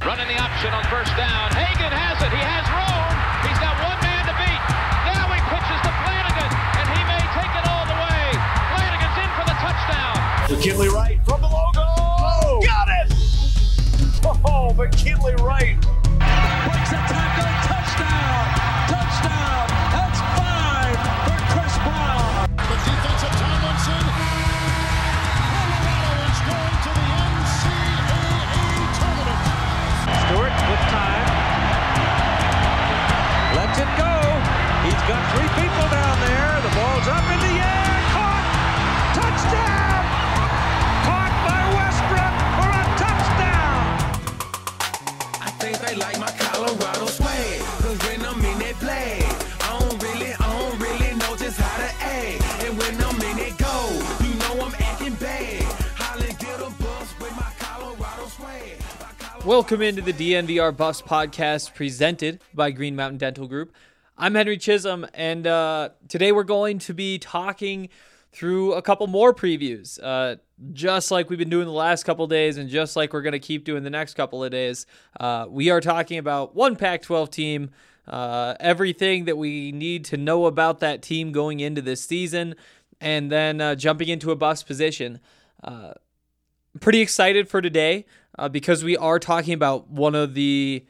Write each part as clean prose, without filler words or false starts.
Running the option on first down. Hagan has it. He has room. He's got one man to beat. Now he pitches to Flanagan, and he may take it all the way. Flanagan's in for the touchdown. McKinley Wright from the logo. Oh, got it! Oh, McKinley Wright. Breaks a tackle. Touchdown. Touchdown. That's 5 for Chris Brown. The defensive Tomlinson. Colorado is going to the NCAA tournament. Stewart with time. Lets it go. He's got 3 people down there. The ball's up in the air. Caught. Touchdown. Caught by Westbrook for a touchdown. I think they like my Colorado swag. Cause when I'm in that play, I don't really know just how to act. And when I'm in it go, you know I'm acting bad. Holly get a bus with my Colorado swag. Welcome into the DNVR Buffs podcast presented by Green Mountain Dental Group. I'm Henry Chisholm, and today we're going to be talking through a couple more previews, just like we've been doing the last couple days and just like we're going to keep doing the next couple of days. We are talking about one Pac-12 team, everything that we need to know about that team going into this season, and then jumping into a Buffs position. Pretty excited for today because we are talking about one of the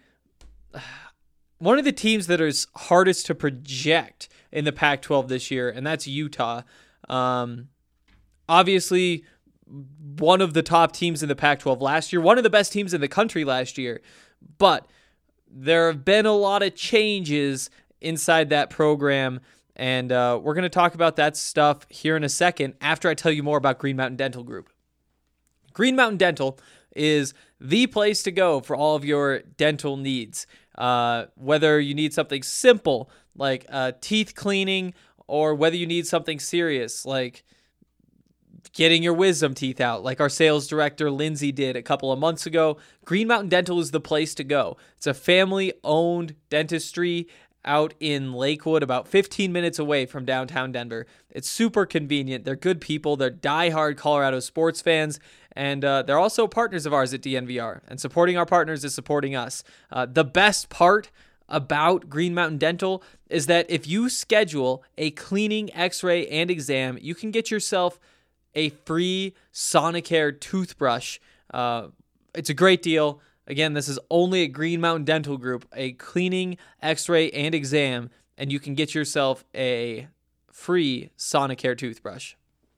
teams that is hardest to project in the Pac-12 this year, and that's Utah. Obviously, one of the top teams in the Pac-12 last year, one of the best teams in the country last year, but there have been a lot of changes inside that program, and we're going to talk about that stuff here in a second after I tell you more about Green Mountain Dental Group. Green Mountain Dental is the place to go for all of your dental needs. Whether you need something simple like teeth cleaning, or whether you need something serious like getting your wisdom teeth out, like our sales director Lindsay did a couple of months ago, Green Mountain Dental is the place to go. It's a family-owned dentistry out in Lakewood, about 15 minutes away from downtown Denver. It's super convenient. They're good people. They're diehard Colorado sports fans, and they're also partners of ours at DNVR. And supporting our partners is supporting us. The best part about Green Mountain Dental is that if you schedule a cleaning, x-ray, and exam, you can get yourself a free Sonicare toothbrush. It's a great deal. Again, this is only at Green Mountain Dental Group, a cleaning, x-ray, and exam, and you can get yourself a free Sonicare toothbrush.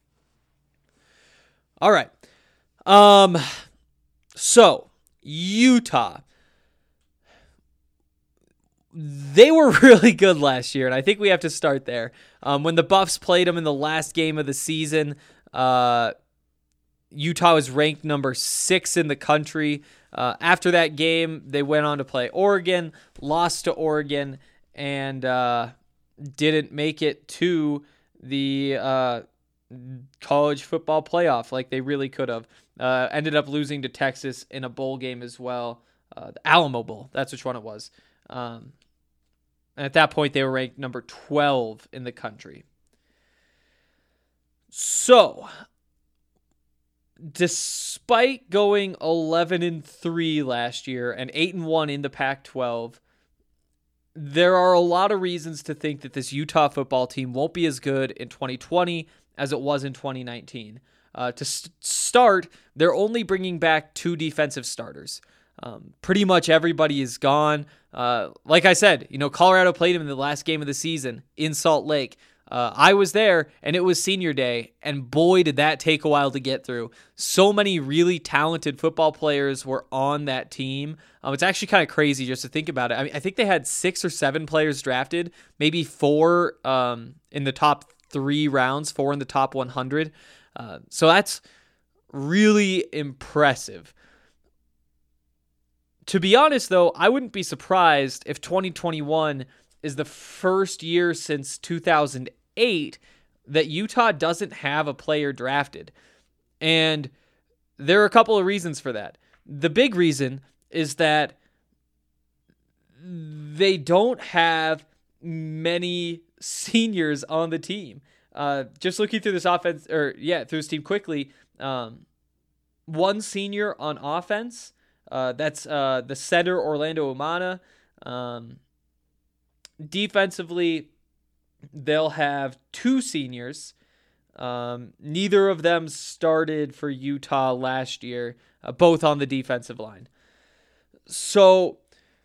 All right. So, Utah. They were really good last year, and I think we have to start there. When the Buffs played them in the last game of the season, Utah was ranked number 6 in the country. After that game, they went on to play Oregon, lost to Oregon, and didn't make it to the college football playoff like they really could have. Ended up losing to Texas in a bowl game as well. The Alamo Bowl, that's which one it was. And at that point, they were ranked number 12 in the country. So, despite going 11-3 last year and 8-1 in the Pac-12, there are a lot of reasons to think that this Utah football team won't be as good in 2020 as it was in 2019. To start, they're only bringing back 2 defensive starters. Pretty much everybody is gone. Like I said, Colorado played him in the last game of the season in Salt Lake. I was there, and it was senior day, and boy, did that take a while to get through. So many really talented football players were on that team. It's actually kind of crazy just to think about it. I mean, I think they had 6 or 7 players drafted, maybe 4 in the top 3 rounds, 4 in the top 100. So that's really impressive. To be honest, though, I wouldn't be surprised if 2021 is the first year since 2008 that Utah doesn't have a player drafted. And there are a couple of reasons for that. The big reason is that they don't have many seniors on the team. Just looking through this offense, through this team quickly, one senior on offense, That's the center, Orlando Umana. Defensively, they'll have 2 seniors. Neither of them started for Utah last year, both on the defensive line. So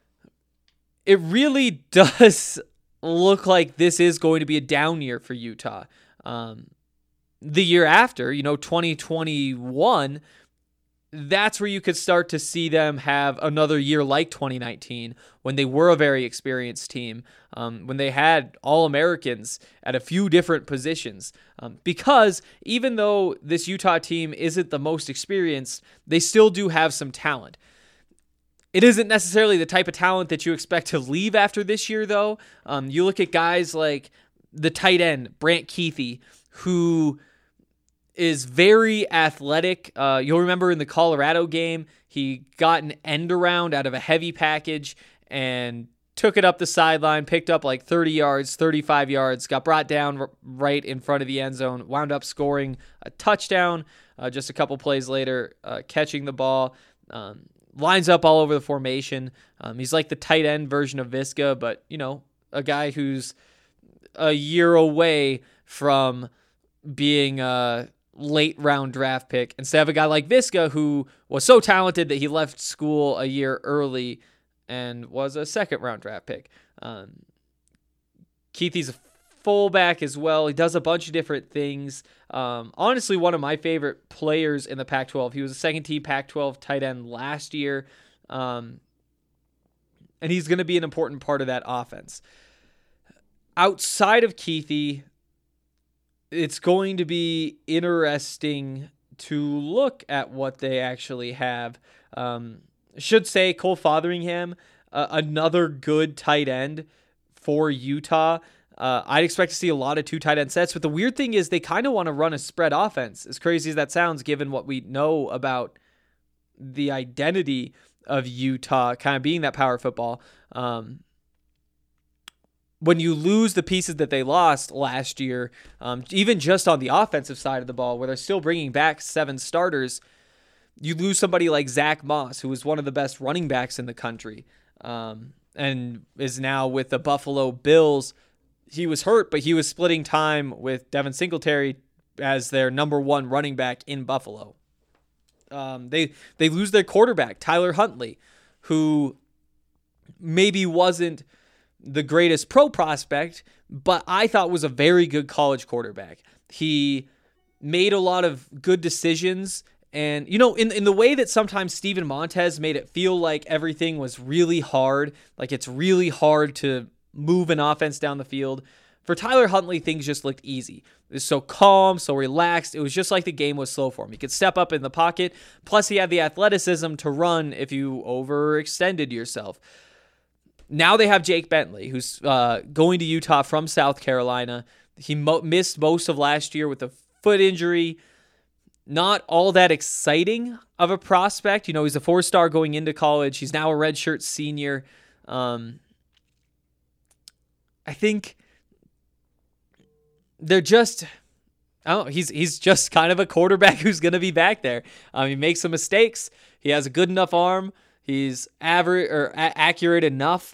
it really does look like this is going to be a down year for Utah. The year after, 2021, that's where you could start to see them have another year like 2019, when they were a very experienced team, when they had All-Americans at a few different positions. Because even though this Utah team isn't the most experienced, they still do have some talent. It isn't necessarily the type of talent that you expect to leave after this year, though. You look at guys like the tight end, Brant Kuithe, who is very athletic. You'll remember in the Colorado game, he got an end around out of a heavy package and took it up the sideline, picked up like 30 yards, 35 yards, got brought down right in front of the end zone, wound up scoring a touchdown just a couple plays later, catching the ball, lines up all over the formation. He's like the tight end version of Viska, but, a guy who's a year away from being a late round draft pick instead of a guy like Viska, who was so talented that he left school a year early and was a second round draft pick. Kuithe's a fullback as well. He does a bunch of different things. Honestly, one of my favorite players in the Pac-12. He was a second team Pac-12 tight end last year. And he's going to be an important part of that offense. Outside of Kuithe, it's going to be interesting to look at what they actually have. Should say Cole Fotheringham, another good tight end for Utah. I'd expect to see a lot of 2 tight end sets, but the weird thing is they kind of want to run a spread offense, as crazy as that sounds, given what we know about the identity of Utah kind of being that power football. When you lose the pieces that they lost last year, even just on the offensive side of the ball, where they're still bringing back 7 starters, you lose somebody like Zach Moss, who was one of the best running backs in the country, and is now with the Buffalo Bills. He was hurt, but he was splitting time with Devin Singletary as their number 1 running back in Buffalo. They lose their quarterback, Tyler Huntley, who maybe wasn't the greatest pro prospect, but I thought was a very good college quarterback. He made a lot of good decisions. And, in the way that sometimes Steven Montez made it feel like everything was really hard, like it's really hard to move an offense down the field, for Tyler Huntley, things just looked easy. It was so calm, so relaxed. It was just like the game was slow for him. He could step up in the pocket. Plus, he had the athleticism to run if you overextended yourself. Now they have Jake Bentley, who's going to Utah from South Carolina. He missed most of last year with a foot injury. Not all that exciting of a prospect. He's a 4-star going into college. He's now a redshirt senior. I think they're just... he's just kind of a quarterback who's going to be back there. He makes some mistakes. He has a good enough arm. He's average or accurate enough.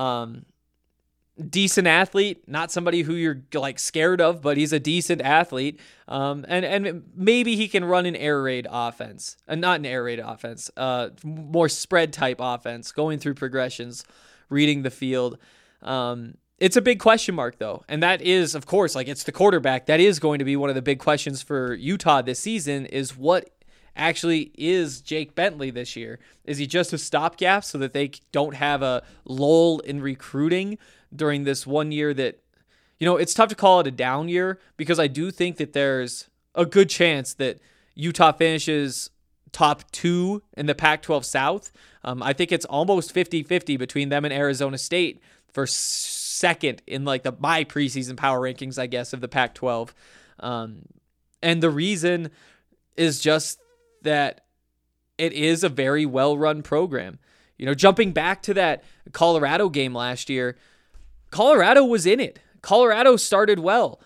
Decent athlete, not somebody who you're like scared of, but he's a decent athlete. And maybe he can run an air raid offense, not an air raid offense, more spread type offense, going through progressions, reading the field. It's a big question mark though. And that is, of course, like it's the quarterback. That is going to be one of the big questions for Utah this season is what actually is Jake Bentley this year. Is he just a stopgap so that they don't have a lull in recruiting during this 1 year that, it's tough to call it a down year because I do think that there's a good chance that Utah finishes top 2 in the Pac-12 South. I think it's almost 50-50 between them and Arizona State for second in like my preseason power rankings, I guess, of the Pac-12. And the reason is just that it is a very well-run program. Jumping back to that Colorado game last year, Colorado was in it. Colorado started well.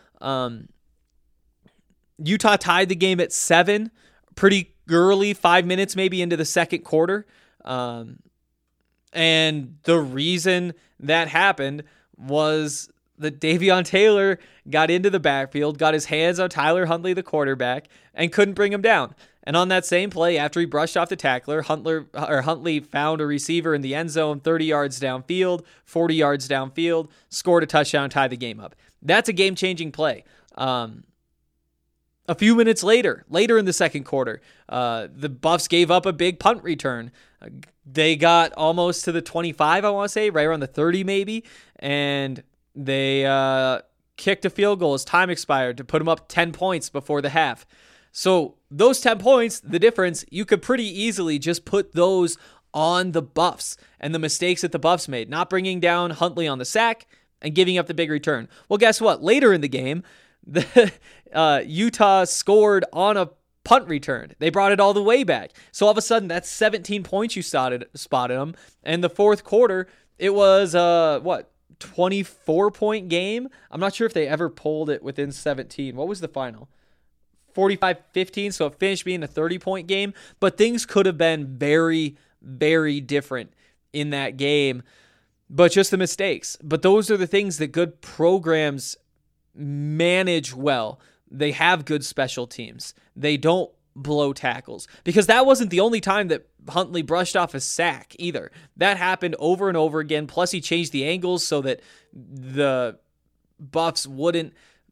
Utah tied the game at 7, pretty early, 5 minutes maybe into the second quarter. And the reason that happened was that Davion Taylor got into the backfield, got his hands on Tyler Huntley, the quarterback, and couldn't bring him down. And on that same play, after he brushed off the tackler, Huntley found a receiver in the end zone, 30 yards downfield, 40 yards downfield, scored a touchdown, tied the game up. That's a game-changing play. A few minutes later in the second quarter, the Buffs gave up a big punt return. They got almost to the 25, I want to say, right around the 30 maybe, and they kicked a field goal as time expired to put them up 10 points before the half. So those 10 points, the difference, you could pretty easily just put those on the Buffs and the mistakes that the Buffs made, not bringing down Huntley on the sack and giving up the big return. Well, guess what? Later in the game, Utah scored on a punt return. They brought it all the way back. So all of a sudden, that's 17 points you spotted them. And the fourth quarter, it was 24-point game? I'm not sure if they ever pulled it within 17. What was the final? 45-15, so it finished being a 30-point game. But things could have been very, very different in that game. But just the mistakes. But those are the things that good programs manage well. They have good special teams. They don't blow tackles. Because that wasn't the only time that Huntley brushed off a sack either. That happened over and over again. Plus he changed the angles so that the Buffs wouldn't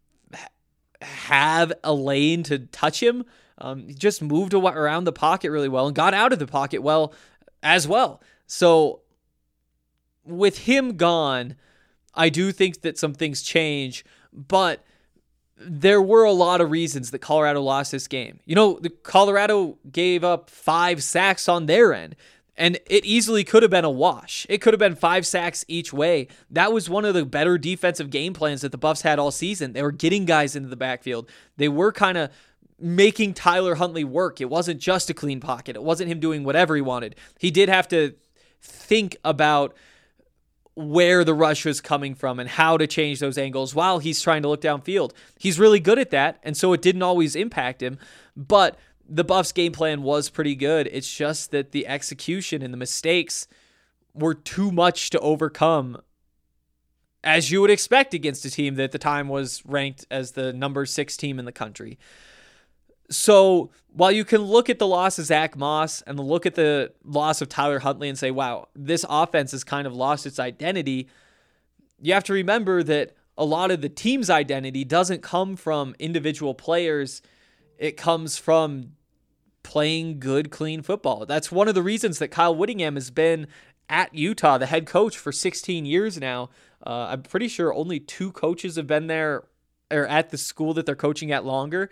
have a lane to touch him. He just moved around the pocket really well and got out of the pocket well as well. So with him gone, I do think that some things change, but there were a lot of reasons that Colorado lost this game. The Colorado gave up 5 sacks on their end, and it easily could have been a wash. It could have been 5 sacks each way. That was one of the better defensive game plans that the Buffs had all season. They were getting guys into the backfield. They were kind of making Tyler Huntley work. It wasn't just a clean pocket. It wasn't him doing whatever he wanted. He did have to think about where the rush was coming from and how to change those angles while he's trying to look downfield. He's really good at that, and so it didn't always impact him, but the Buffs' game plan was pretty good. It's just that the execution and the mistakes were too much to overcome, as you would expect against a team that at the time was ranked as the number 6 team in the country. So while you can look at the loss of Zach Moss and look at the loss of Tyler Huntley and say, wow, this offense has kind of lost its identity, you have to remember that a lot of the team's identity doesn't come from individual players. It comes from playing good, clean football. That's one of the reasons that Kyle Whittingham has been at Utah, the head coach, for 16 years now. I'm pretty sure only 2 coaches have been there or at the school that they're coaching at longer.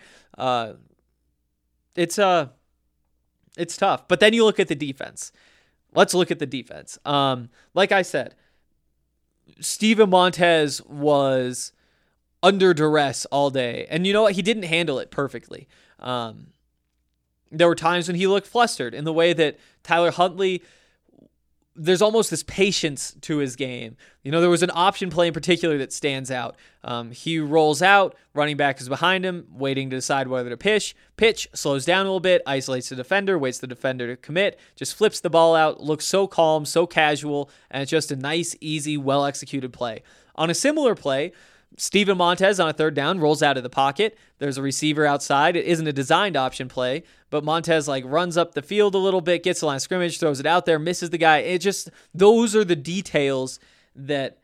It's tough. But then you look at the defense. Let's look at the defense. Like I said, Steven Montez was under duress all day. And you know what? He didn't handle it perfectly. There were times when he looked flustered in the way that Tyler Huntley, there's almost this patience to his game. There was an option play in particular that stands out. He rolls out, running back is behind him, waiting to decide whether to pitch, slows down a little bit, isolates the defender, waits the defender to commit, just flips the ball out, looks so calm, so casual, and it's just a nice, easy, well-executed play. On a similar play, Steven Montez on a third down rolls out of the pocket. There's a receiver outside. It isn't a designed option play, but Montez runs up the field a little bit, gets the line of scrimmage, throws it out there, misses the guy. Those are the details that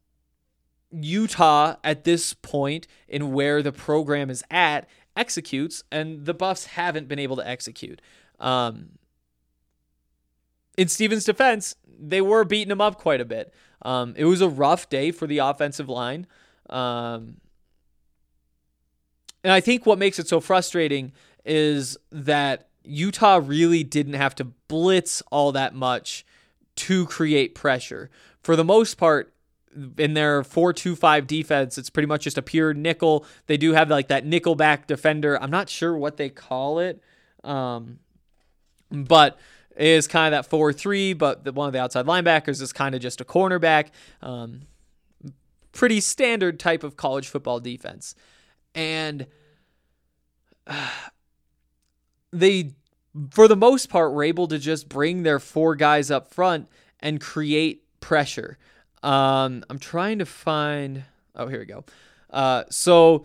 Utah at this point in where the program is at executes, and the Buffs haven't been able to execute. In Steven's defense, they were beating him up quite a bit. It was a rough day for the offensive line. And I think what makes it so frustrating is that Utah really didn't have to blitz all that much to create pressure. For the most part, in their 4-2-5 defense, it's pretty much just a pure nickel. They do have that nickel back defender. I'm not sure what they call it, but it is kind of that 4-3, but one of the outside linebackers is kind of just a cornerback. Pretty standard type of college football defense. And they for the most part, were able to just bring their 4 guys up front and create pressure. I'm trying to find... Oh, here we go. So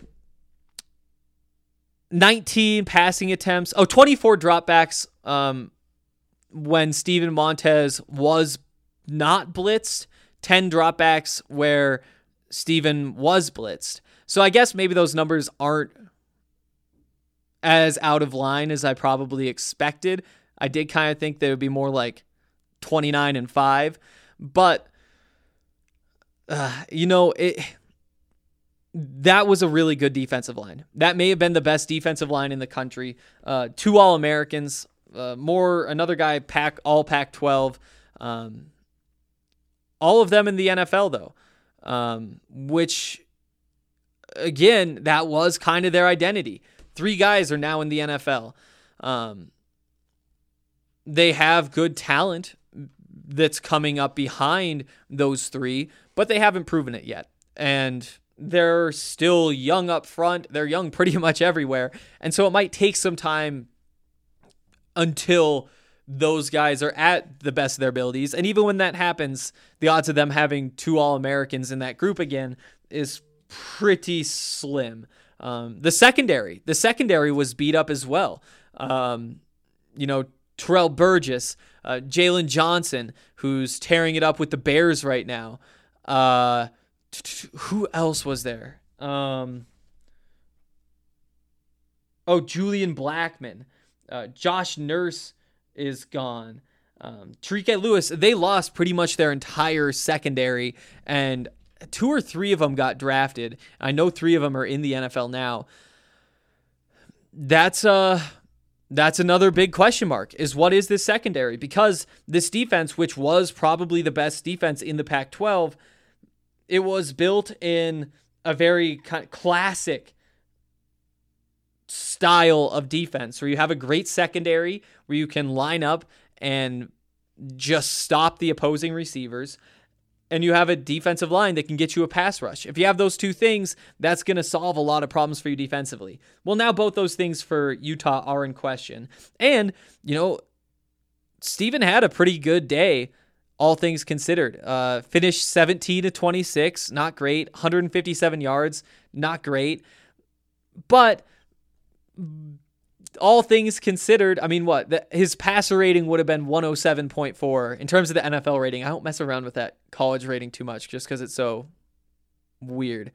19 passing attempts. 24 dropbacks when Steven Montez was not blitzed. 10 dropbacks where Steven was blitzed. So I guess maybe those numbers aren't as out of line as I probably expected. I did kind of think they would be more like 29 and 5. But, that was a really good defensive line. That may have been the best defensive line in the country. 2 All-Americans, another guy, all Pac-12. All of them in the NFL, though, which, again, that was kind of their identity. 3 guys are now in the NFL. They have good talent that's coming up behind those 3, but they haven't proven it yet. And they're still young up front. They're young pretty much everywhere. And so it might take some time until those guys are at the best of their abilities. And even when that happens, the odds of them having 2 All-Americans in that group again is pretty slim. The secondary was beat up as well. Terrell Burgess, Jalen Johnson, who's tearing it up with the Bears right now. Who else was there? Julian Blackman. Josh Nurse is gone. Tariq Lewis, they lost pretty much their entire secondary, and 2 or 3 of them got drafted. I know 3 of them are in the NFL now. That's another big question mark, is what is this secondary? Because this defense, which was probably the best defense in the Pac-12, it was built in a very classic style of defense where you have a great secondary where you can line up and just stop the opposing receivers, and you have a defensive line that can get you a pass rush. If you have those 2 things, that's going to solve a lot of problems for you defensively. Well, now both those things for Utah are in question. And, Steven had a pretty good day, all things considered. Finished 17-26, not great. 157 yards, not great. But all things considered, his passer rating would have been 107.4 in terms of the NFL rating. I don't mess around with that college rating too much just because it's so weird.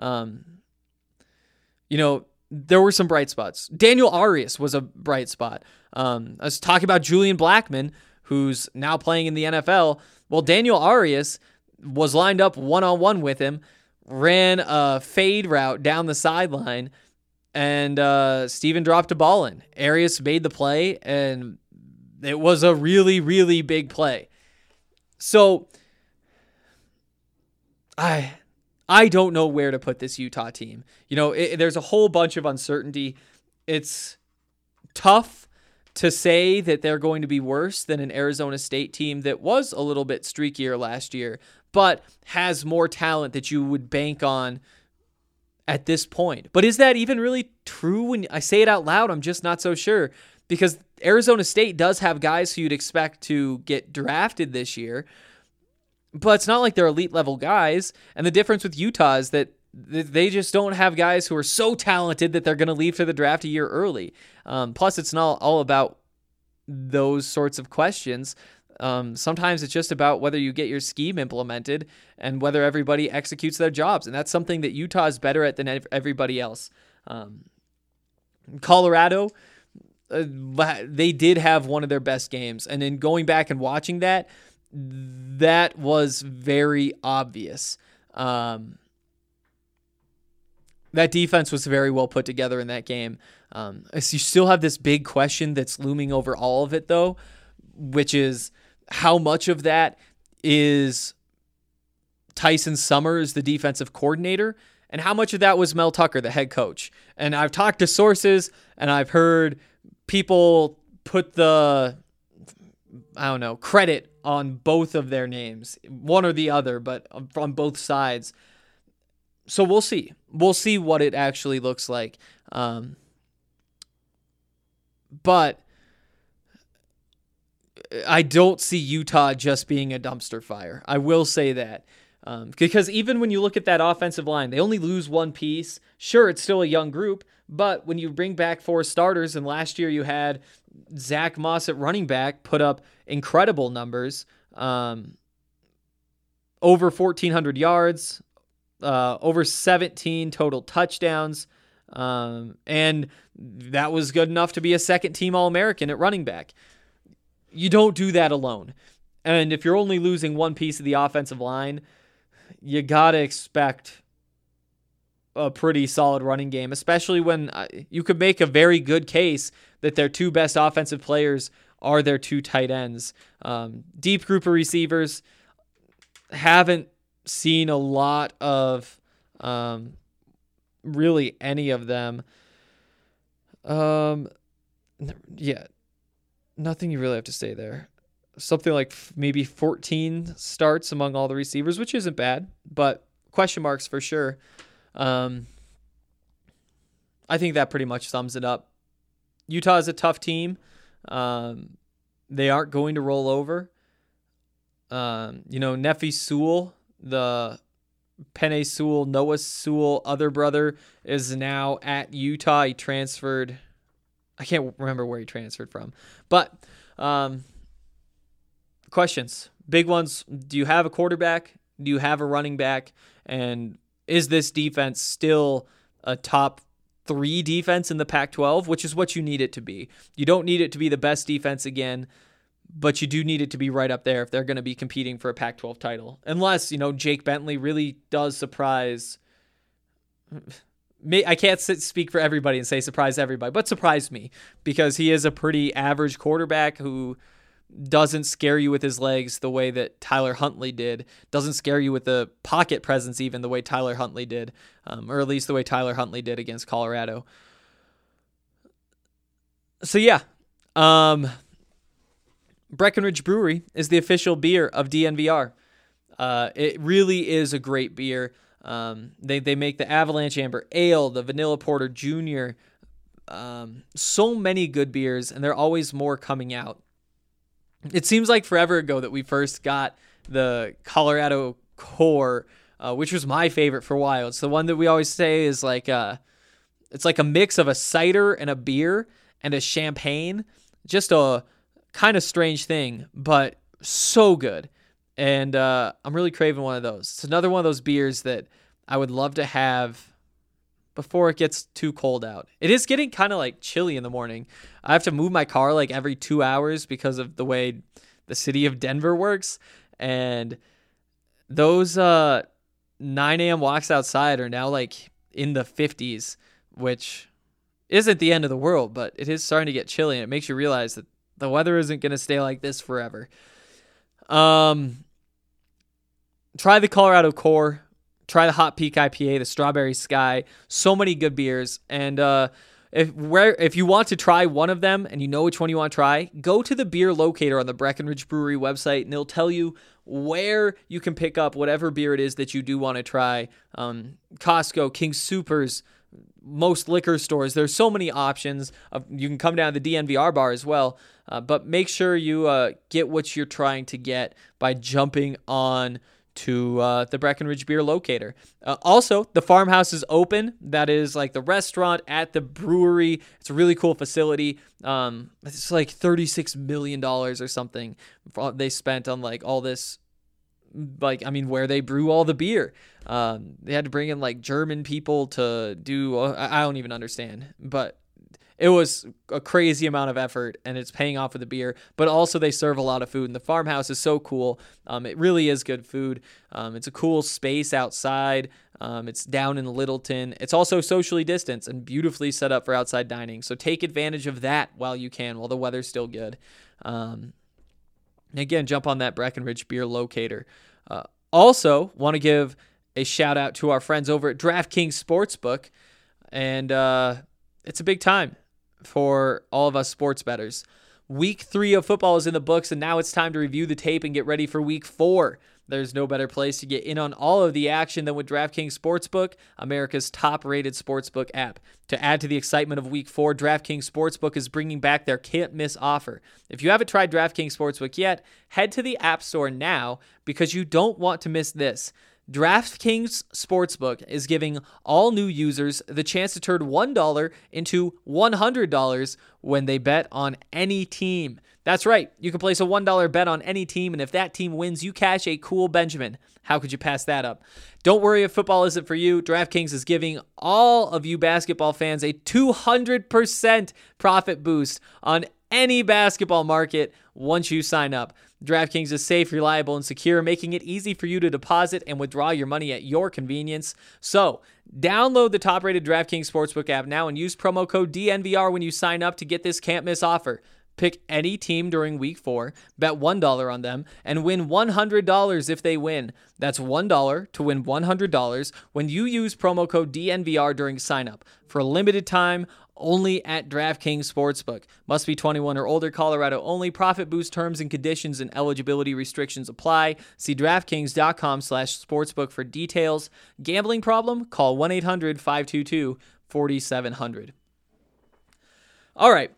There were some bright spots. Daniel Arias was a bright spot. I was talking about Julian Blackman, who's now playing in the NFL. Well, Daniel Arias was lined up one-on-one with him, ran a fade route down the sideline, and Steven dropped a ball in. Arias made the play, and it was a really, really big play. So I don't know where to put this Utah team. There's a whole bunch of uncertainty. It's tough to say that they're going to be worse than an Arizona State team that was a little bit streakier last year, but has more talent that you would bank on at this point. But is that even really true? When I say it out loud, I'm just not so sure, because Arizona State does have guys who you'd expect to get drafted this year, but it's not like they're elite level guys. And the difference with Utah is that they just don't have guys who are so talented that they're going to leave for the draft a year early. Plus, it's not all about those sorts of questions. Sometimes it's just about whether you get your scheme implemented and whether everybody executes their jobs. And that's something that Utah is better at than everybody else. Colorado, they did have one of their best games. And then going back and watching that was very obvious. That defense was very well put together in that game. You still have this big question that's looming over all of it, though, which is how much of that is Tyson Summers, the defensive coordinator, and how much of that was Mel Tucker, the head coach. And I've talked to sources, and I've heard people put credit on both of their names, one or the other, but on both sides. So we'll see. We'll see what it actually looks like. But I don't see Utah just being a dumpster fire. I will say that. Because even when you look at that offensive line, they only lose one piece. Sure, it's still a young group, but when you bring back 4 starters, and last year you had Zach Moss at running back put up incredible numbers, over 1,400 yards, over 17 total touchdowns, and that was good enough to be a second-team All-American at running back. You don't do that alone. And if you're only losing one piece of the offensive line, you got to expect a pretty solid running game, especially when you could make a very good case that their 2 best offensive players are their 2 tight ends. Deep group of receivers, haven't seen a lot of really any of them. Yeah, nothing you really have to say there. Something like maybe 14 starts among all the receivers, which isn't bad, but question marks for sure. I think that pretty much sums it up. Utah is a tough team. They aren't going to roll over. Nephi Sewell, the Penei Sewell, Noah Sewell other brother, is now at Utah. He transferred. I can't remember where he transferred from. But questions, big ones. Do you have a quarterback? Do you have a running back? And is this defense still a top 3 defense in the Pac-12, which is what you need it to be? You don't need it to be the best defense again, but you do need it to be right up there if they're going to be competing for a Pac-12 title. Unless, Jake Bentley really does surprise. I can't speak for everybody and say surprise everybody, but surprise me, because he is a pretty average quarterback who doesn't scare you with his legs the way that Tyler Huntley did, doesn't scare you with the pocket presence even the way Tyler Huntley did, or at least the way Tyler Huntley did against Colorado. So yeah, Breckenridge Brewery is the official beer of DNVR. It really is a great beer. They make the Avalanche Amber Ale, the Vanilla Porter Junior, so many good beers, and there are always more coming out. It seems like forever ago that we first got the Colorado Core, which was my favorite for a while. It's the one that we always say is it's like a mix of a cider and a beer and a champagne. Just a kind of strange thing, but so good. And I'm really craving one of those. It's another one of those beers that I would love to have before it gets too cold out. It is getting kind of like chilly in the morning. I have to move my car like every 2 hours because of the way the city of Denver works. And those 9 a.m. walks outside are now like in the 50s, which isn't the end of the world, but it is starting to get chilly, and it makes you realize that the weather isn't going to stay like this forever. Try the Colorado Core. Try the Hot Peak IPA, the Strawberry Sky. So many good beers. And if you want to try one of them and you know which one you want to try, go to the beer locator on the Breckenridge Brewery website, and it'll tell you where you can pick up whatever beer it is that you do want to try. Costco, King Soopers, most liquor stores. There's so many options. You can come down to the DNVR bar as well. But make sure you get what you're trying to get by jumping on to the Breckenridge Beer Locator. Also, the farmhouse is open. That is like the restaurant at the brewery. It's a really cool facility. It's like $36 million or something they spent on like all this, where they brew all the beer. They had to bring in like German people to do, I don't even understand, but it was a crazy amount of effort, and it's paying off with the beer. But also they serve a lot of food, and the farmhouse is so cool. It really is good food. It's a cool space outside. It's down in Littleton. It's also socially distanced and beautifully set up for outside dining. So take advantage of that while you can, while the weather's still good. Again, jump on that Breckenridge Beer Locator. Also, want to give a shout out to our friends over at DraftKings Sportsbook, and it's a big time for all of us sports bettors. Week 3 of football is in the books, and now it's time to review the tape and get ready for Week 4. There's no better place to get in on all of the action than with DraftKings Sportsbook, America's top-rated sportsbook app. To add to the excitement of Week 4, DraftKings Sportsbook is bringing back their can't-miss offer. If you haven't tried DraftKings Sportsbook yet, head to the App Store now because you don't want to miss this. DraftKings Sportsbook is giving all new users the chance to turn $1 into $100 when they bet on any team. That's right. You can place a $1 bet on any team, and if that team wins, you cash a cool Benjamin. How could you pass that up? Don't worry if football isn't for you. DraftKings is giving all of you basketball fans a 200% profit boost on any basketball market once you sign up. DraftKings is safe, reliable, and secure, making it easy for you to deposit and withdraw your money at your convenience. So, download the top-rated DraftKings Sportsbook app now and use promo code DNVR when you sign up to get this can't-miss offer. Pick any team during Week 4, bet $1 on them, and win $100 if they win. That's $1 to win $100 when you use promo code DNVR during sign-up. For a limited time, only at DraftKings Sportsbook. Must be 21 or older, Colorado only. Profit boost terms and conditions and eligibility restrictions apply. See DraftKings.com/sportsbook for details. Gambling problem? Call 1-800-522-4700. All right.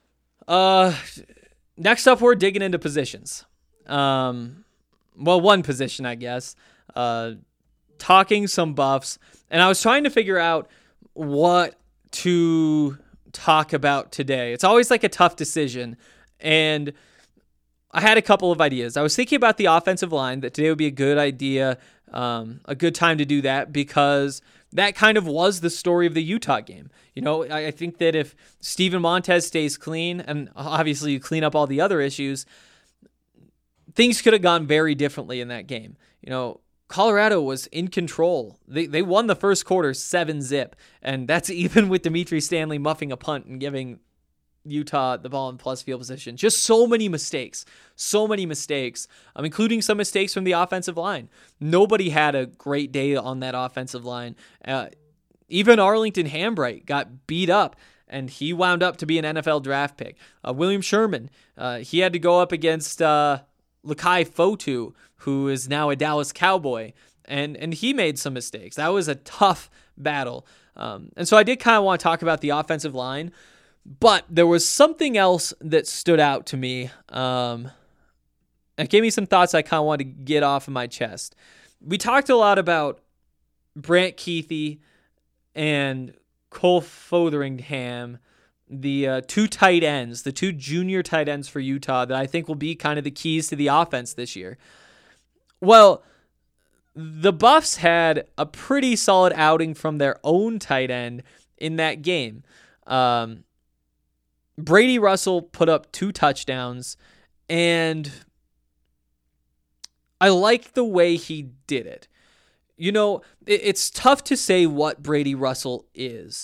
Next up, we're digging into positions. One position, I guess. Talking some buffs. And I was trying to figure out what to talk about today. It's always like a tough decision. And I had a couple of ideas. I was thinking about the offensive line, that today would be a good idea, a good time to do that, because that kind of was the story of the Utah game. You know, I think that if Steven Montez stays clean, and obviously you clean up all the other issues, things could have gone very differently in that game. You know, Colorado was in control. They won the first quarter 7-0, and that's even with Dimitri Stanley muffing a punt and giving Utah the ball in plus field position. Just so many mistakes, including some mistakes from the offensive line. Nobody had a great day on that offensive line. Even Arlington Hambright got beat up, and he wound up to be an NFL draft pick. William Sherman, he had to go up against Lakai Fotu, who is now a Dallas Cowboy, and he made some mistakes. That was a tough battle. And so I did kind of want to talk about the offensive line, but there was something else that stood out to me. It gave me some thoughts I kind of wanted to get off of my chest. We talked a lot about Brant Kuithe and Cole Fotheringham, the two tight ends, the two junior tight ends for Utah that I think will be kind of the keys to the offense this year. Well, the Buffs had a pretty solid outing from their own tight end in that game. Brady Russell put up 2 touchdowns, and I like the way he did it. You know, it's tough to say what Brady Russell is,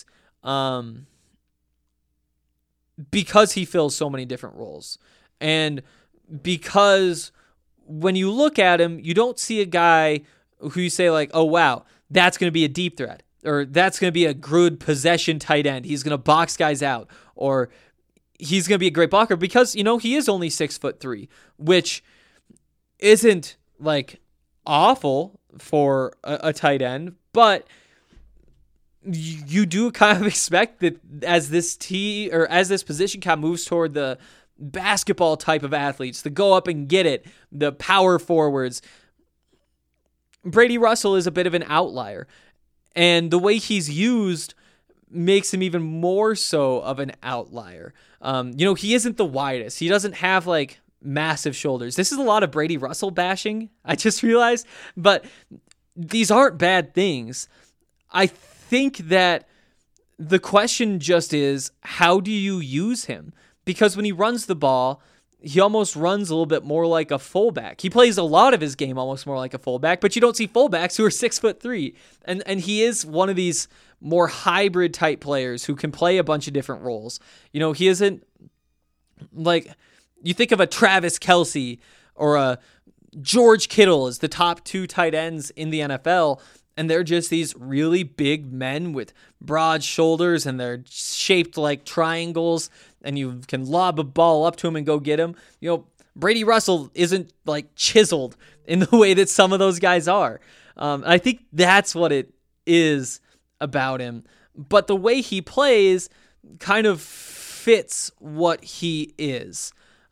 because he fills so many different roles. And because when you look at him, you don't see a guy who you say like, oh, wow, that's going to be a deep threat, or that's going to be a good possession tight end. He's going to box guys out, or he's going to be a great blocker, because, you know, he is only 6'3", which isn't like awful for a tight end, but you do kind of expect that as this position kind of moves toward the basketball type of athletes, to go up and get it, the power forwards, Brady Russell is a bit of an outlier, and the way he's used makes him even more so of an outlier. You know, he isn't the widest. He doesn't have like massive shoulders. This is a lot of Brady Russell bashing, I just realized, but these aren't bad things. I think that the question just is, how do you use him? Because when he runs the ball, he almost runs a little bit more like a fullback. He plays a lot of his game almost more like a fullback, but you don't see fullbacks who are 6'3", and he is one of these more hybrid type players who can play a bunch of different roles. You know, he isn't like, you think of a Travis Kelce or a George Kittle as the top 2 tight ends in the NFL, and they're just these really big men with broad shoulders, and they're shaped like triangles, and you can lob a ball up to him and go get him. You know, Brady Russell isn't like chiseled in the way that some of those guys are. I think that's what it is about him. But the way he plays kind of fits what he is.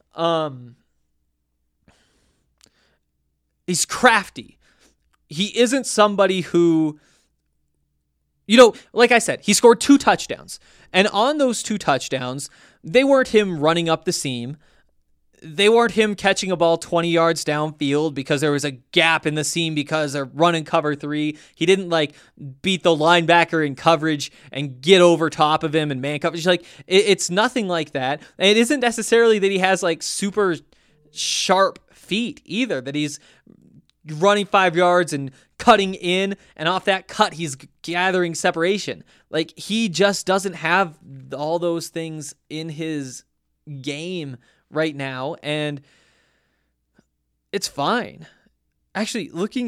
He's crafty. He isn't somebody who, like I said, he scored 2 touchdowns. And on those 2 touchdowns, they weren't him running up the seam. They weren't him catching a ball 20 yards downfield because there was a gap in the seam because they're running cover 3. He didn't beat the linebacker in coverage and get over top of him and man coverage. It's nothing like that. And it isn't necessarily that he has super sharp feet either, that he's running 5 yards and cutting in, and off that cut he's gathering separation. He just doesn't have all those things in his game right now, and it's fine. Actually,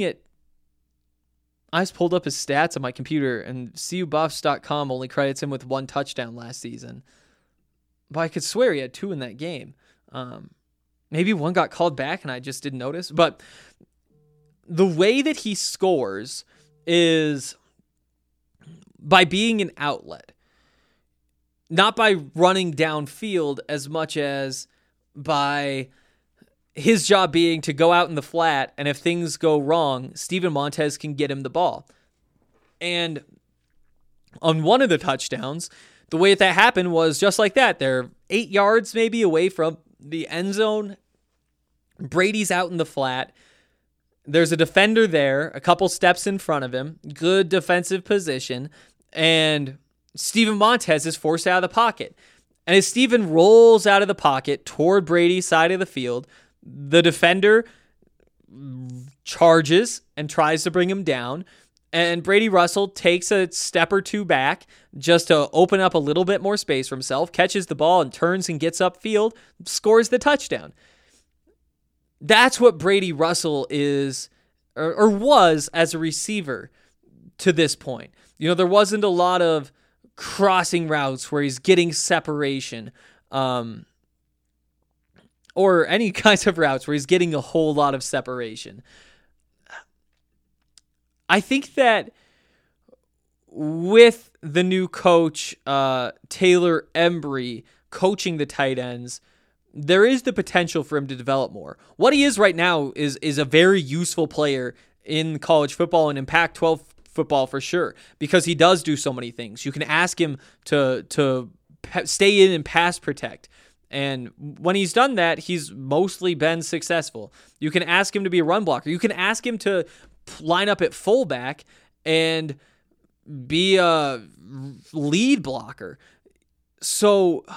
I just pulled up his stats on my computer, and CUBuffs.com only credits him with 1 touchdown last season. But I could swear he had 2 in that game. Maybe 1 got called back and I just didn't notice. But the way that he scores is by being an outlet. Not by running downfield as much as by his job being to go out in the flat, and if things go wrong, Steven Montez can get him the ball. And on one of the touchdowns, the way that happened was just like that. They're 8 yards maybe away from the end zone. Brady's out in the flat. There's a defender there, a couple steps in front of him, good defensive position, and Steven Montez is forced out of the pocket. And as Steven rolls out of the pocket toward Brady's side of the field, the defender charges and tries to bring him down, and Brady Russell takes a step or 2 back just to open up a little bit more space for himself, catches the ball and turns and gets upfield, scores the touchdown. That's what Brady Russell is or was as a receiver to this point. There wasn't a lot of crossing routes where he's getting separation, or any kinds of routes where he's getting a whole lot of separation. I think that with the new coach, Taylor Embry, coaching the tight ends, there is the potential for him to develop more. What he is right now is a very useful player in college football and in Pac-12 football for sure, because he does do so many things. You can ask him to stay in and pass protect. And when he's done that, he's mostly been successful. You can ask him to be a run blocker. You can ask him to line up at fullback and be a lead blocker. So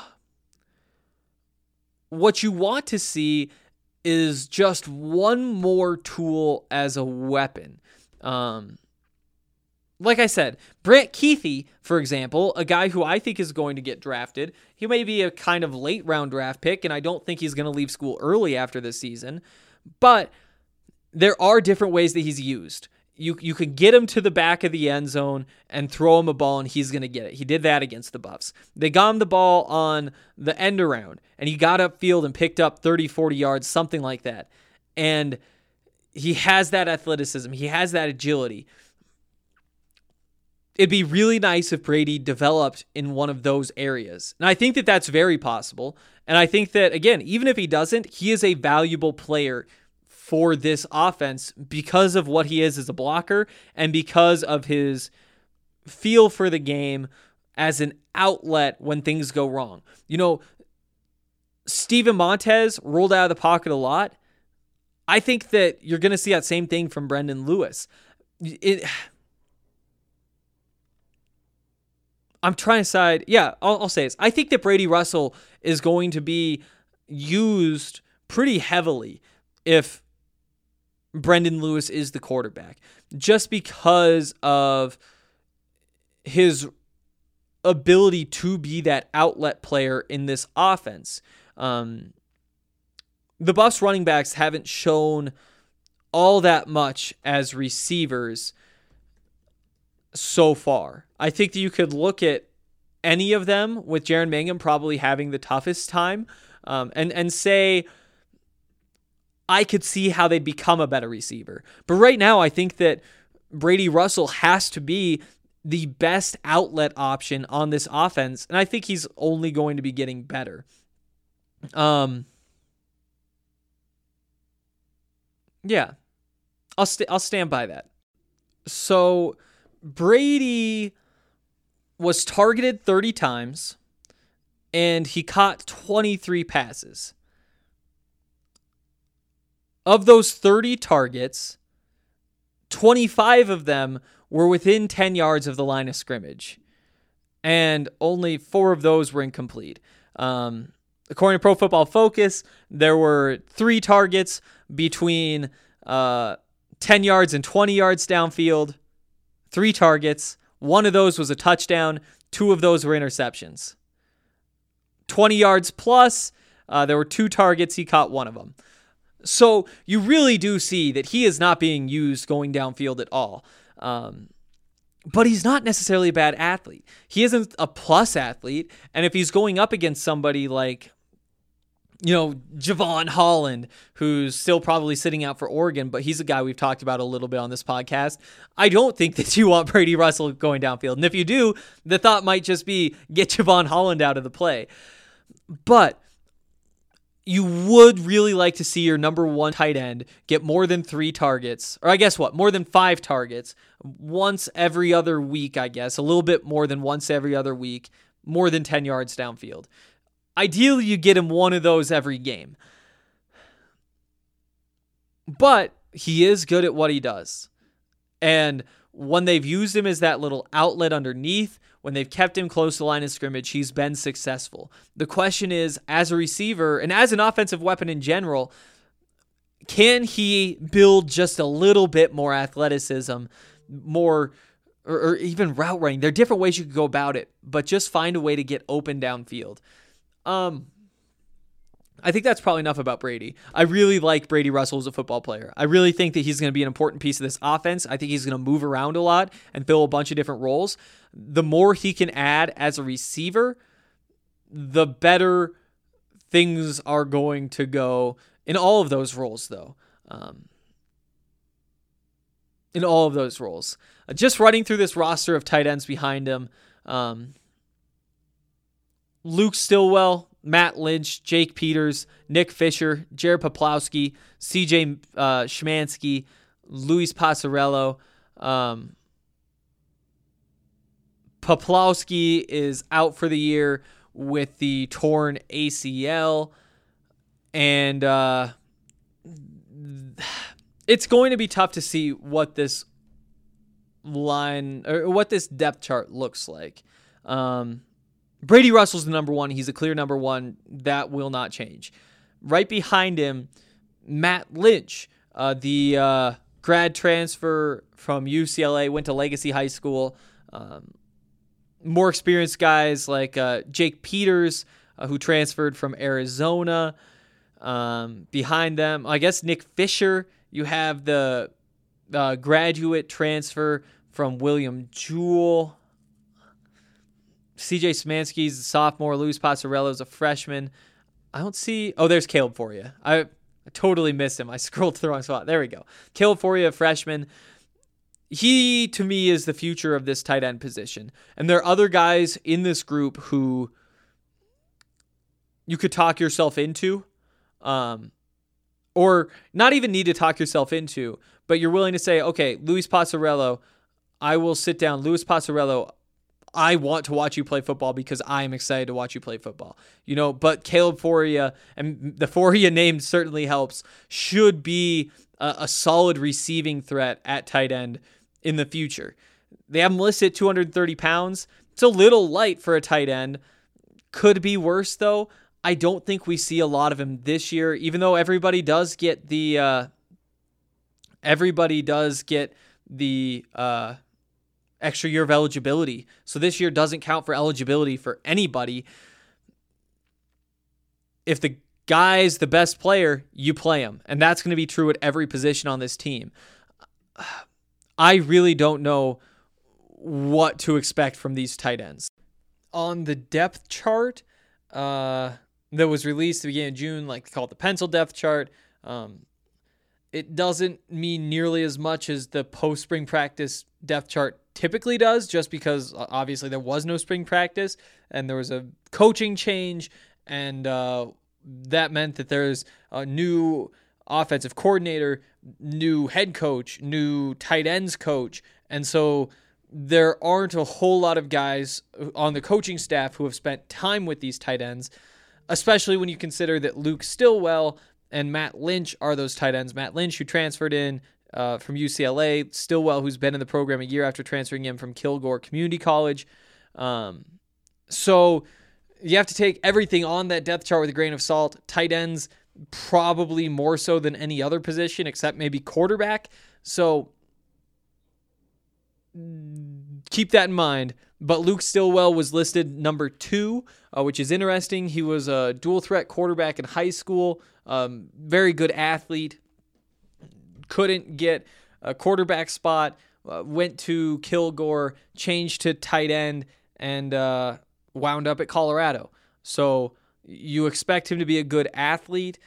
what you want to see is just one more tool as a weapon. Like I said, Brant Kuithe, for example, a guy who I think is going to get drafted. He may be a kind of late round draft pick, and I don't think he's going to leave school early after this season. But there are different ways that he's used. You could get him to the back of the end zone and throw him a ball, and he's going to get it. He did that against the Buffs. They got him the ball on the end around, and he got upfield and picked up 30, 40 yards, something like that. And he has that athleticism. He has that agility. It'd be really nice if Brady developed in one of those areas. And I think that that's very possible. And I think that, again, even if he doesn't, he is a valuable player for this offense because of what he is as a blocker and because of his feel for the game as an outlet when things go wrong. Steven Montez rolled out of the pocket a lot. I think that you're going to see that same thing from Brendan Lewis. I'm trying to decide. Yeah, I'll say this. I think that Brady Russell is going to be used pretty heavily if Brendan Lewis is the quarterback, just because of his ability to be that outlet player in this offense. The Buffs running backs haven't shown all that much as receivers so far. I think that you could look at any of them, with Jaren Mangham probably having the toughest time, and say I could see how they'd become a better receiver. But right now, I think that Brady Russell has to be the best outlet option on this offense, and I think he's only going to be getting better. Yeah, I'll stand by that. So Brady was targeted 30 times, and he caught 23 passes. Of those 30 targets, 25 of them were within 10 yards of the line of scrimmage, and only 4 of those were incomplete. According to Pro Football Focus, there were 3 targets between 10 yards and 20 yards downfield, 3 targets. 1 of those was a touchdown. 2 of those were interceptions. 20 yards plus, there were 2 targets. He caught 1 of them. So you really do see that he is not being used going downfield at all. But he's not necessarily a bad athlete. He isn't a plus athlete. And if he's going up against somebody like, Javon Holland, who's still probably sitting out for Oregon, but he's a guy we've talked about a little bit on this podcast, I don't think that you want Brady Russell going downfield. And if you do, the thought might just be get Javon Holland out of the play. But you would really like to see your number 1 tight end get more than 3 targets, or I guess more than 5 targets once every other week, a little bit more than once every other week, more than 10 yards downfield. Ideally, you get him 1 of those every game. But he is good at what he does. And when they've used him as that little outlet underneath, when they've kept him close to the line of scrimmage, he's been successful. The question is, as a receiver and as an offensive weapon in general, can he build just a little bit more athleticism, more, or even route running? There are different ways you could go about it, but just find a way to get open downfield. I think that's probably enough about Brady. I really like Brady Russell as a football player. I really think that he's going to be an important piece of this offense. I think he's going to move around a lot and fill a bunch of different roles. The more he can add as a receiver, the better things are going to go in all of those roles, though. In all of those roles. Just running through this roster of tight ends behind him, Luke Stillwell, Matt Lynch, Jake Peters, Nick Fisher, Jared Poplawski, CJ Schmansky, Luis Passarello. Poplawski is out for the year with the torn ACL, and it's going to be tough to see what this line or what this depth chart looks like. Brady Russell's the number 1. He's a clear number 1. That will not change. Right behind him, Matt Lynch, the grad transfer from UCLA, went to Legacy High School. More experienced guys like Jake Peters, who transferred from Arizona. Behind them, I guess Nick Fisher. You have the graduate transfer from William Jewell. CJ Smansky's a sophomore. Luis Passarello's a freshman. I don't see... Oh, there's Caleb Foria. I totally missed him. I scrolled to the wrong spot. There we go. Caleb Foria, a freshman. He, to me, is the future of this tight end position. And there are other guys in this group who you could talk yourself into, or not even need to talk yourself into, but you're willing to say, okay, Luis Passarello, I will sit down. Luis Passarello, I want to watch you play football because I'm excited to watch you play football. But Caleb Foria, and the Foria name certainly helps, should be a solid receiving threat at tight end in the future. They have him listed at 230 pounds. It's a little light for a tight end. Could be worse, though. I don't think we see a lot of him this year, even though everybody does get the extra year of eligibility. So this year doesn't count for eligibility for anybody. If the guy's the best player, you play him. And that's going to be true at every position on this team. I really don't know what to expect from these tight ends. On the depth chart that was released at the beginning of June, like called the pencil depth chart, it doesn't mean nearly as much as the post-spring practice depth chart typically does, just because obviously there was no spring practice and there was a coaching change, and that meant that there's a new offensive coordinator, new head coach, new tight ends coach, and so there aren't a whole lot of guys on the coaching staff who have spent time with these tight ends, especially when you consider that Luke Stillwell and Matt Lynch are those tight ends. Matt Lynch, who transferred in from UCLA, Stillwell, who's been in the program a year after transferring in from Kilgore Community College. So you have to take everything on that depth chart with a grain of salt. Tight ends probably more so than any other position, except maybe quarterback. So keep that in mind. But Luke Stillwell was listed number 2, which is interesting. He was a dual threat quarterback in high school, very good athlete, couldn't get a quarterback spot, went to Kilgore, changed to tight end, and wound up at Colorado. So you expect him to be a good athlete.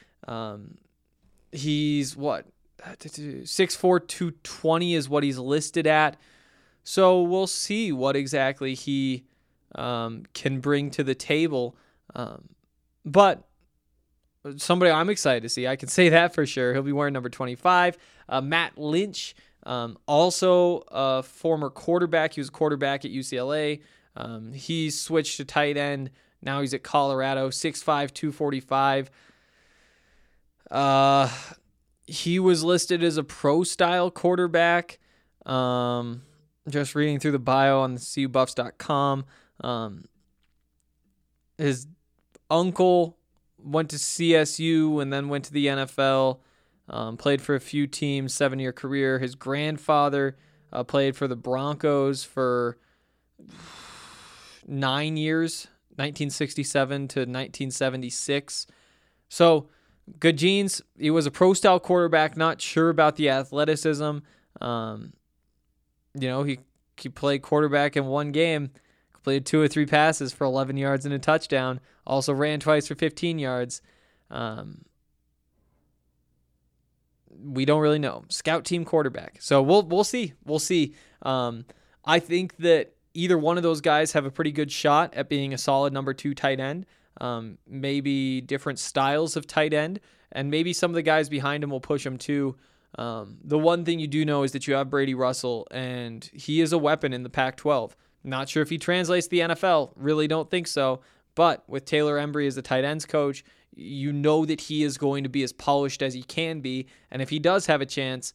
He's 6'4", 220 is what he's listed at. So we'll see what exactly he can bring to the table. But somebody I'm excited to see, I can say that for sure. He'll be wearing number 25. Matt Lynch, also a former quarterback. He was a quarterback at UCLA. He switched to tight end. Now he's at Colorado, 6'5", 245. He was listed as a pro-style quarterback. Just reading through the bio on the CUBuffs.com. His uncle went to CSU and then went to the NFL. Played for a few teams, 7-year career. His grandfather played for the Broncos for 9 years, 1967 to 1976. So, good genes. He was a pro-style quarterback, not sure about the athleticism. He played quarterback in one game, completed 2 or 3 passes for 11 yards and a touchdown, also ran twice for 15 yards. We don't really know. Scout team quarterback. So we'll see. We'll see. I think that either one of those guys have a pretty good shot at being a solid number 2 tight end. Maybe different styles of tight end, and maybe some of the guys behind him will push him too. The one thing you do know is that you have Brady Russell, and he is a weapon in the Pac-12. Not sure if he translates to the NFL. Really don't think so. But with Taylor Embry as the tight ends coach, you know that he is going to be as polished as he can be. And if he does have a chance,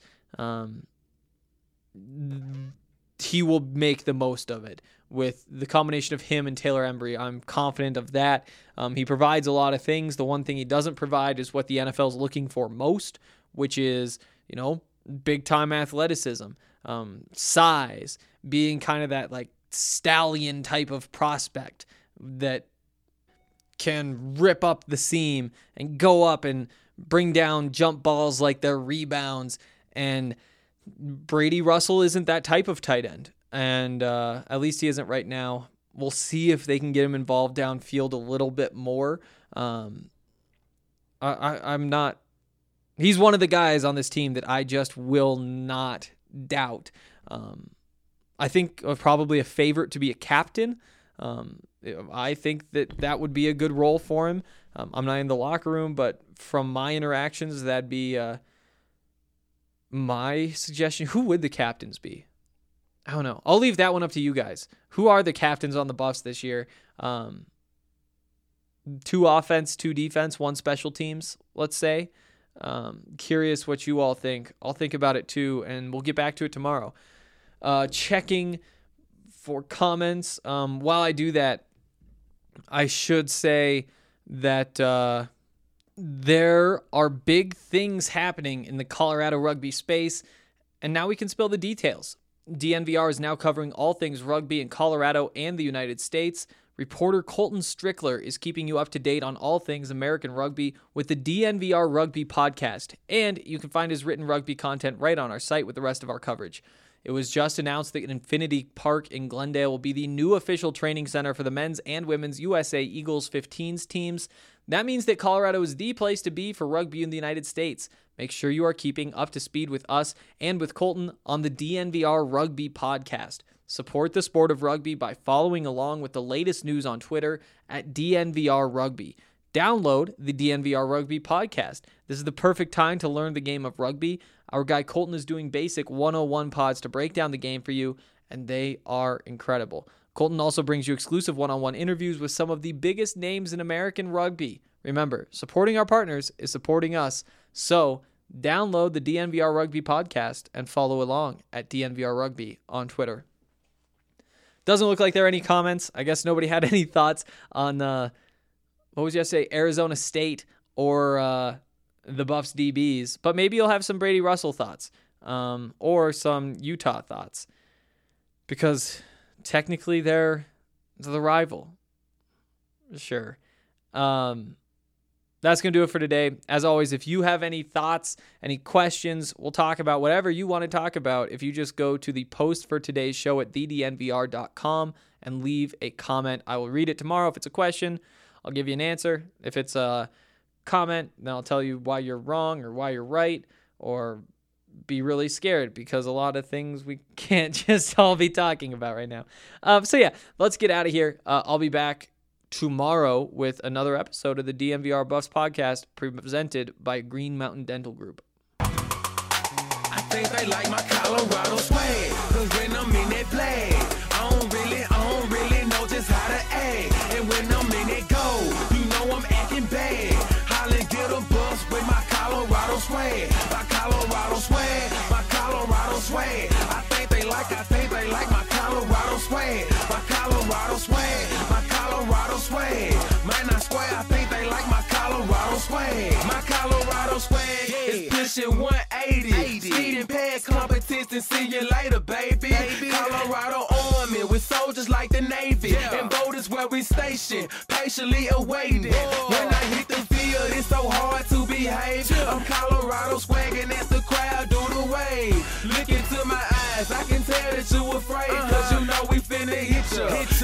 he will make the most of it. With the combination of him and Taylor Embry, I'm confident of that. He provides a lot of things. The one thing he doesn't provide is what the NFL is looking for most, which is, big-time athleticism, size, being kind of that, stallion type of prospect that can rip up the seam and go up and bring down jump balls like they're rebounds. And Brady Russell isn't that type of tight end. And at least he isn't right now. We'll see if they can get him involved downfield a little bit more. I'm not... He's one of the guys on this team that I just will not doubt. I think probably a favorite to be a captain. I think that would be a good role for him. I'm not in the locker room, but from my interactions, that'd be my suggestion. Who would the captains be? I don't know. I'll leave that one up to you guys. Who are the captains on the Buffs this year? 2 offense, 2 defense, 1 special teams, let's say. Curious what you all think. I'll think about it too, and we'll get back to it tomorrow. Checking for comments. While I do that, I should say that there are big things happening in the Colorado rugby space, and now we can spill the details. DNVR is now covering all things rugby in Colorado and the United States. Reporter Colton Strickler is keeping you up to date on all things American rugby with the DNVR Rugby podcast, and you can find his written rugby content right on our site with the rest of our coverage. It was just announced that Infinity Park in Glendale will be the new official training center for the men's and women's USA Eagles 15s teams. That means that Colorado is the place to be for rugby in the United States. make sure you are keeping up to speed with us and with Colton on the DNVR Rugby podcast. Support the sport of rugby by following along with the latest news on Twitter at DNVR Rugby. Download the DNVR Rugby podcast. This is the perfect time to learn the game of rugby. Our guy Colton is doing basic 101 pods to break down the game for you, and they are incredible. Colton also brings you exclusive one-on-one interviews with some of the biggest names in American rugby. Remember, supporting our partners is supporting us. So download the DNVR Rugby podcast and follow along at DNVR Rugby on Twitter. Doesn't look like there are any comments. I guess nobody had any thoughts on, what was yesterday, Arizona State or the Buffs DBs. But maybe you'll have some Brady Russell thoughts or some Utah thoughts. Because technically they're the rival. Sure. That's going to do it for today. As always, if you have any thoughts, any questions, we'll talk about whatever you want to talk about. If you just go to the post for today's show at thednvr.com and leave a comment, I will read it tomorrow. If it's a question, I'll give you an answer. If it's a comment, then I'll tell you why you're wrong or why you're right, or be really scared because a lot of things we can't just all be talking about right now. So yeah, let's get out of here. I'll be back tomorrow with another episode of the DNVR Buffs podcast presented by Green Mountain Dental Group. I think they like my Colorado swag, cause when I'm in that flag, I don't really know just how to act. And when I'm in that goal, you know I'm acting bad. Holla, get a bus with my Colorado swag. My Colorado swag, my Colorado swag. I think they like my Colorado swag. My Colorado swag, my Colorado swag. Might not swear, I think they like my Colorado swag. My Colorado swag is pushing 180. Speed and pad competition, see you later, baby. Colorado Army with soldiers like the Navy. And boat is where we station, patiently awaiting. When I hit the field, it's so hard to behave. I'm Colorado swagging as the crowd do the wave. Look into my eyes, I can tell that you afraid. Cause you know we finna hit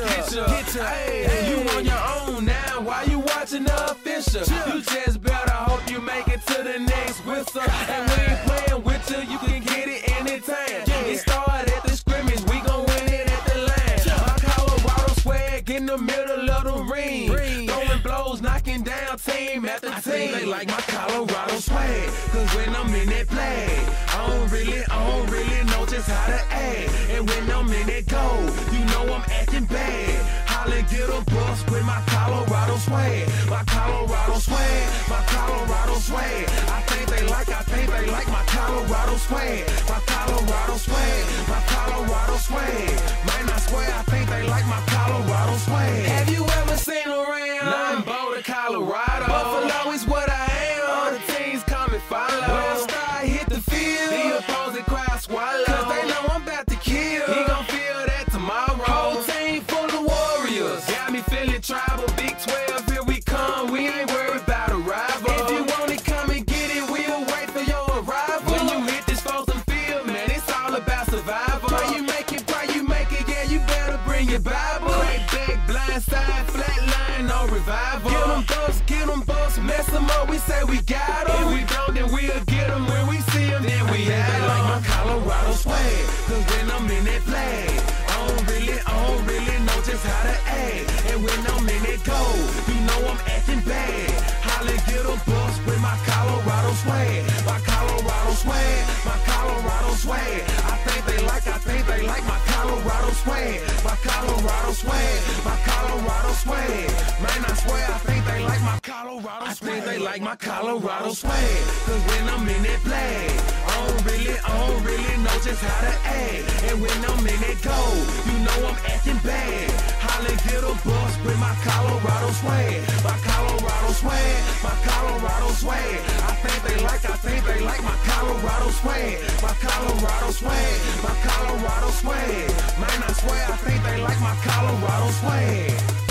ya. Hey, you on your own now, why you watching the official? You just better hope you make it to the next whistle. And we ain't playing with you can get it anytime. It started at the scrimmage, we gon' win it at the line. My Colorado swag in the middle of the ring. Throwing blows, knocking down team after team. I think they like my Colorado swag, cause when I'm in that flag, I don't really know just how to act. And when I'm in that goal, you know I'm acting bad. Holla, get a bus with my Colorado swag. My Colorado swag, my Colorado swag. I think they like my Colorado swag. My Colorado swag, my Colorado swag. Might not swear, I think they like my Colorado swag. Have you ever seen around? Nah, I'm Boulder, Colorado. Buffalo is what I am. All the teams come and follow. When I start hit the field, the opposing crowd swallow. Cause they know I'm about to kill. He gon' feel that tomorrow. Whole team full of warriors. Got me feeling tribal. Big 12, here we come. We ain't worried about a rival. If you want it, come and get it. We'll wait for your arrival. When you hit this frozen field, man, it's all about survival. Pray you make it, yeah, you better bring your Bible. Crack back, blind side, flat line, no revival. Get them busts, mess them up, we say we got them. If we don't, then we'll get them. When we see them, then we have them. Like my Colorado swag, cause when I'm in that flag, I don't really know just how to act. And when I'm in that goal, you know I'm acting bad. Holla, get a bus with my Colorado swag. My Colorado swag, my Colorado swag. I think they like my Colorado swag. My Colorado swag, my Colorado swag. Man, I swear, I think they like my Colorado swag. I think they like my Colorado swag. Cause when I'm in that flag, I don't really know just how to act. And when I'm in that goal, you know I'm acting bad. Holla, get a bus with my Colorado swag. My Colorado swag, my Colorado swag. I think they like my Colorado swag. My Colorado swag, my Colorado swag. Man, I swear, I think they like my Colorado swag.